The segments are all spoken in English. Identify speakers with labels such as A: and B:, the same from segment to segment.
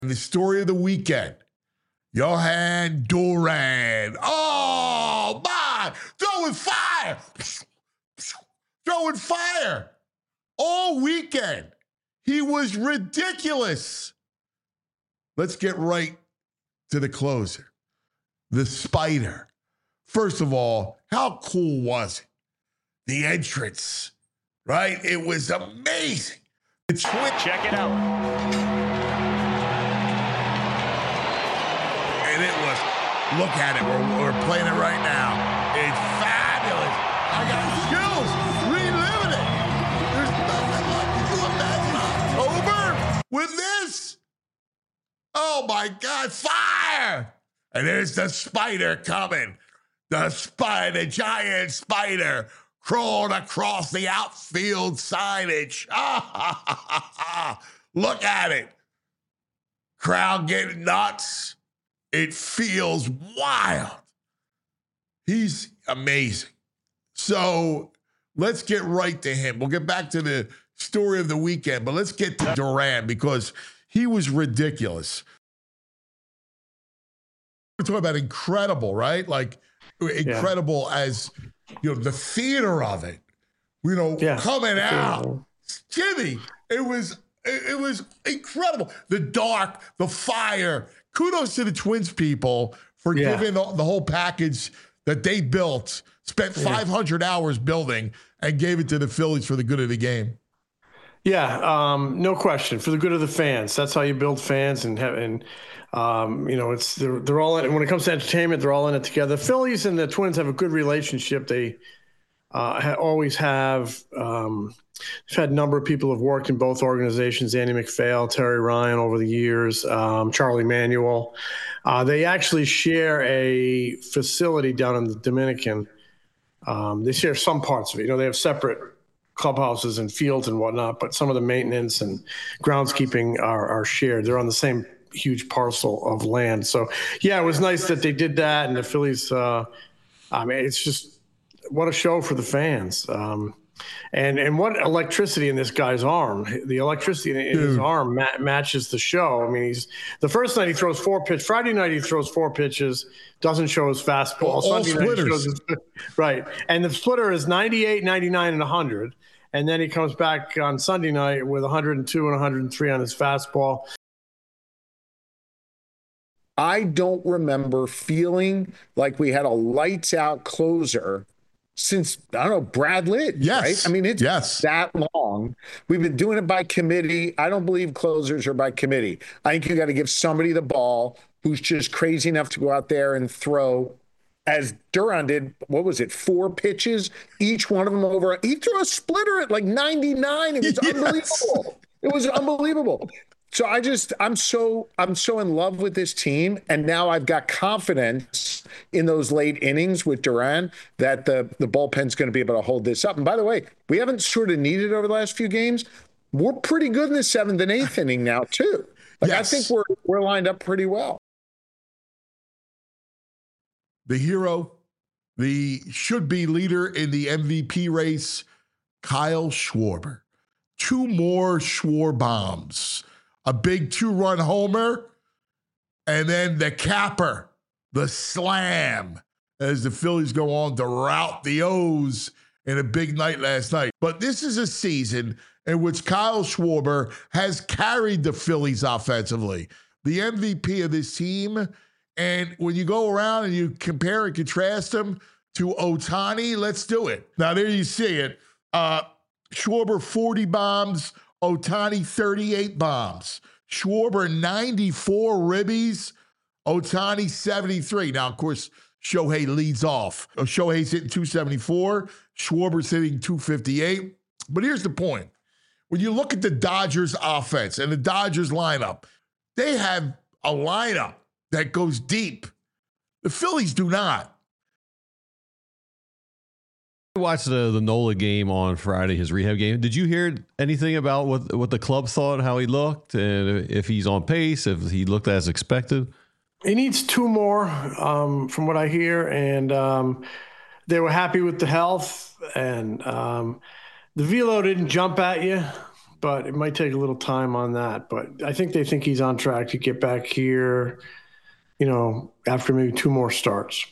A: The story of the weekend, Johan Duran. Oh, my. Throwing fire. Throwing fire. All weekend. He was ridiculous. Let's get right to the closer. The Spider. First of all, how cool was it? The entrance, right? It was amazing.
B: Check it out.
A: And it was, look at it. We're playing it right now. It's fabulous. I got chills reliving it. There's nothing like, can you imagine October with this? Oh my God, fire! And there's the Spider coming. The spider, giant spider, crawled across the outfield signage. Look at it. Crowd getting nuts. It feels wild. He's amazing. So let's get right to him. We'll get back to the story of the weekend, but let's get to Duran because he was ridiculous. We're talking about incredible, right? Like incredible as, you know, the theater of it, you know, coming out. Jimmy, it was incredible. The dark, the fire. Kudos to the Twins people for giving the whole package that they built, spent 500 hours building, and gave it to the Phillies for the good of the game.
C: Yeah, no question. For the good of the fans. That's how you build fans and you know, it's they're all in it. When it comes to entertainment, they're all in it together. The Phillies and the Twins have a good relationship. They always have. I've had a number of people who have worked in both organizations, Andy MacPhail, Terry Ryan over the years, Charlie Manuel. They actually share a facility down in the Dominican. They share some parts of it. You know, they have separate clubhouses and fields and whatnot, but some of the maintenance and groundskeeping are shared. They're on the same huge parcel of land. So, yeah, it was nice that they did that. And the Phillies, I mean, it's just what a show for the fans. And what electricity in this guy's arm. The electricity in his arm matches the show. I mean, the first night he throws 4 pitches. Friday night he throws 4 pitches, doesn't show his fastball. Sunday night he shows his, right. And the splitter is 98, 99, and 100. And then he comes back on Sunday night with 102 and 103 on his fastball.
D: I don't remember feeling like we had a lights out closer since, I don't know, Brad Lidge, right? I mean, it's that long. We've been doing it by committee. I don't believe closers are by committee. I think you got to give somebody the ball who's just crazy enough to go out there and throw, as Duran did, what was it, 4 pitches, each one of them over. He threw a splitter at like 99. It was unbelievable. It was unbelievable. So I'm so in love with this team, and now I've got confidence in those late innings with Duran that the bullpen's going to be able to hold this up. And by the way, we haven't sort of needed over the last few games. We're pretty good in the 7th and 8th inning now too. Like, I think we're lined up pretty well.
A: The hero, the should-be leader in the MVP race, Kyle Schwarber. 2 more Schwar bombs. A big 2-run homer, and then the capper, the slam, as the Phillies go on to rout the O's in a big night last night. But this is a season in which Kyle Schwarber has carried the Phillies offensively, the MVP of this team. And when you go around and you compare and contrast him to Ohtani, let's do it. Now, there you see it. Schwarber, 40 bombs. Ohtani, 38 bombs. Schwarber, 94 ribbies. Ohtani, 73. Now, of course, Shohei leads off. Shohei's hitting 274. Schwarber's hitting 258. But here's the point. When you look at the Dodgers offense and the Dodgers lineup, they have a lineup that goes deep. The Phillies do not.
E: I watched the Nola game on Friday, his rehab game. Did you hear anything about what the club thought, how he looked, and if he's on pace, if he looked as expected?
C: He needs 2 more, from what I hear, and they were happy with the health, and the velo didn't jump at you, but it might take a little time on that. But I think they think he's on track to get back here, after maybe 2 more starts.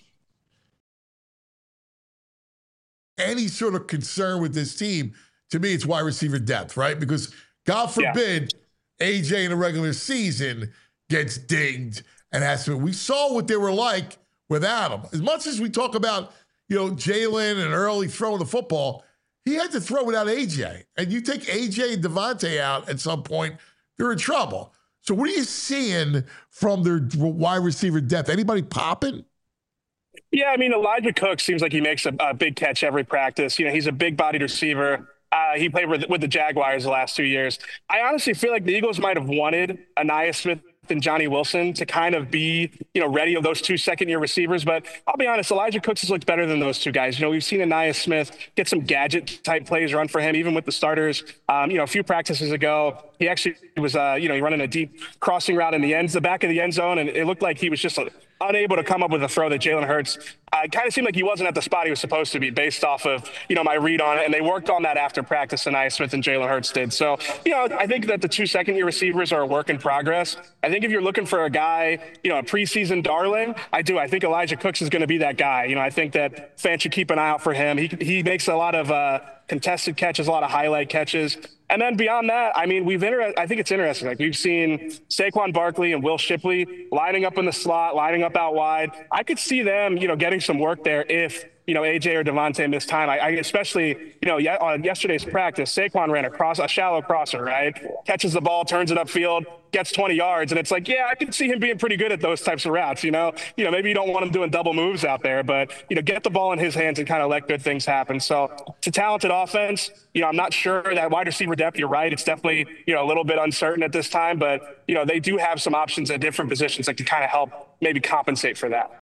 A: Any sort of concern with this team, to me, it's wide receiver depth, right? Because God forbid AJ in a regular season gets dinged and has to. We saw what they were like without him. As much as we talk about, Jalen and Early throwing the football, he had to throw without AJ. And you take AJ and Devontae out at some point, they're in trouble. So what are you seeing from their wide receiver depth? Anybody popping?
F: Yeah, I mean, Elijah Cook seems like he makes a big catch every practice. He's a big-bodied receiver. He played with the Jaguars the last 2 years. I honestly feel like the Eagles might have wanted Ainias Smith and Johnny Wilson to kind of be, ready of those 2 second-year receivers. But I'll be honest, Elijah Cooks has looked better than those 2 guys. We've seen Ainias Smith get some gadget-type plays run for him, even with the starters. A few practices ago, he actually was, running a deep crossing route in the back of the end zone, and it looked like he was just unable to come up with a throw that Jalen Hurts kind of seemed like he wasn't at the spot he was supposed to be based off of, my read on it. And they worked on that after practice, Ainias Smith and Jalen Hurts did. So, I think that the 2 second-year receivers are a work in progress. I think if you're looking for a guy, a preseason darling, I think Elijah Cooks is going to be that guy. I think that fans should keep an eye out for him. He makes a lot of contested catches, a lot of highlight catches. And then beyond that, I mean, I think it's interesting. Like, we've seen Saquon Barkley and Will Shipley lining up in the slot, lining up out wide. I could see them, getting some work there if, AJ or Devontae miss time. I especially, on yesterday's practice, Saquon ran a shallow crosser, right? Catches the ball, turns it upfield, gets 20 yards. And it's like, yeah, I can see him being pretty good at those types of routes, maybe you don't want him doing double moves out there, but, get the ball in his hands and kind of let good things happen. So it's a talented offense. I'm not sure that wide receiver depth, you're right. It's definitely, a little bit uncertain at this time, but, they do have some options at different positions that can kind of help maybe compensate for that.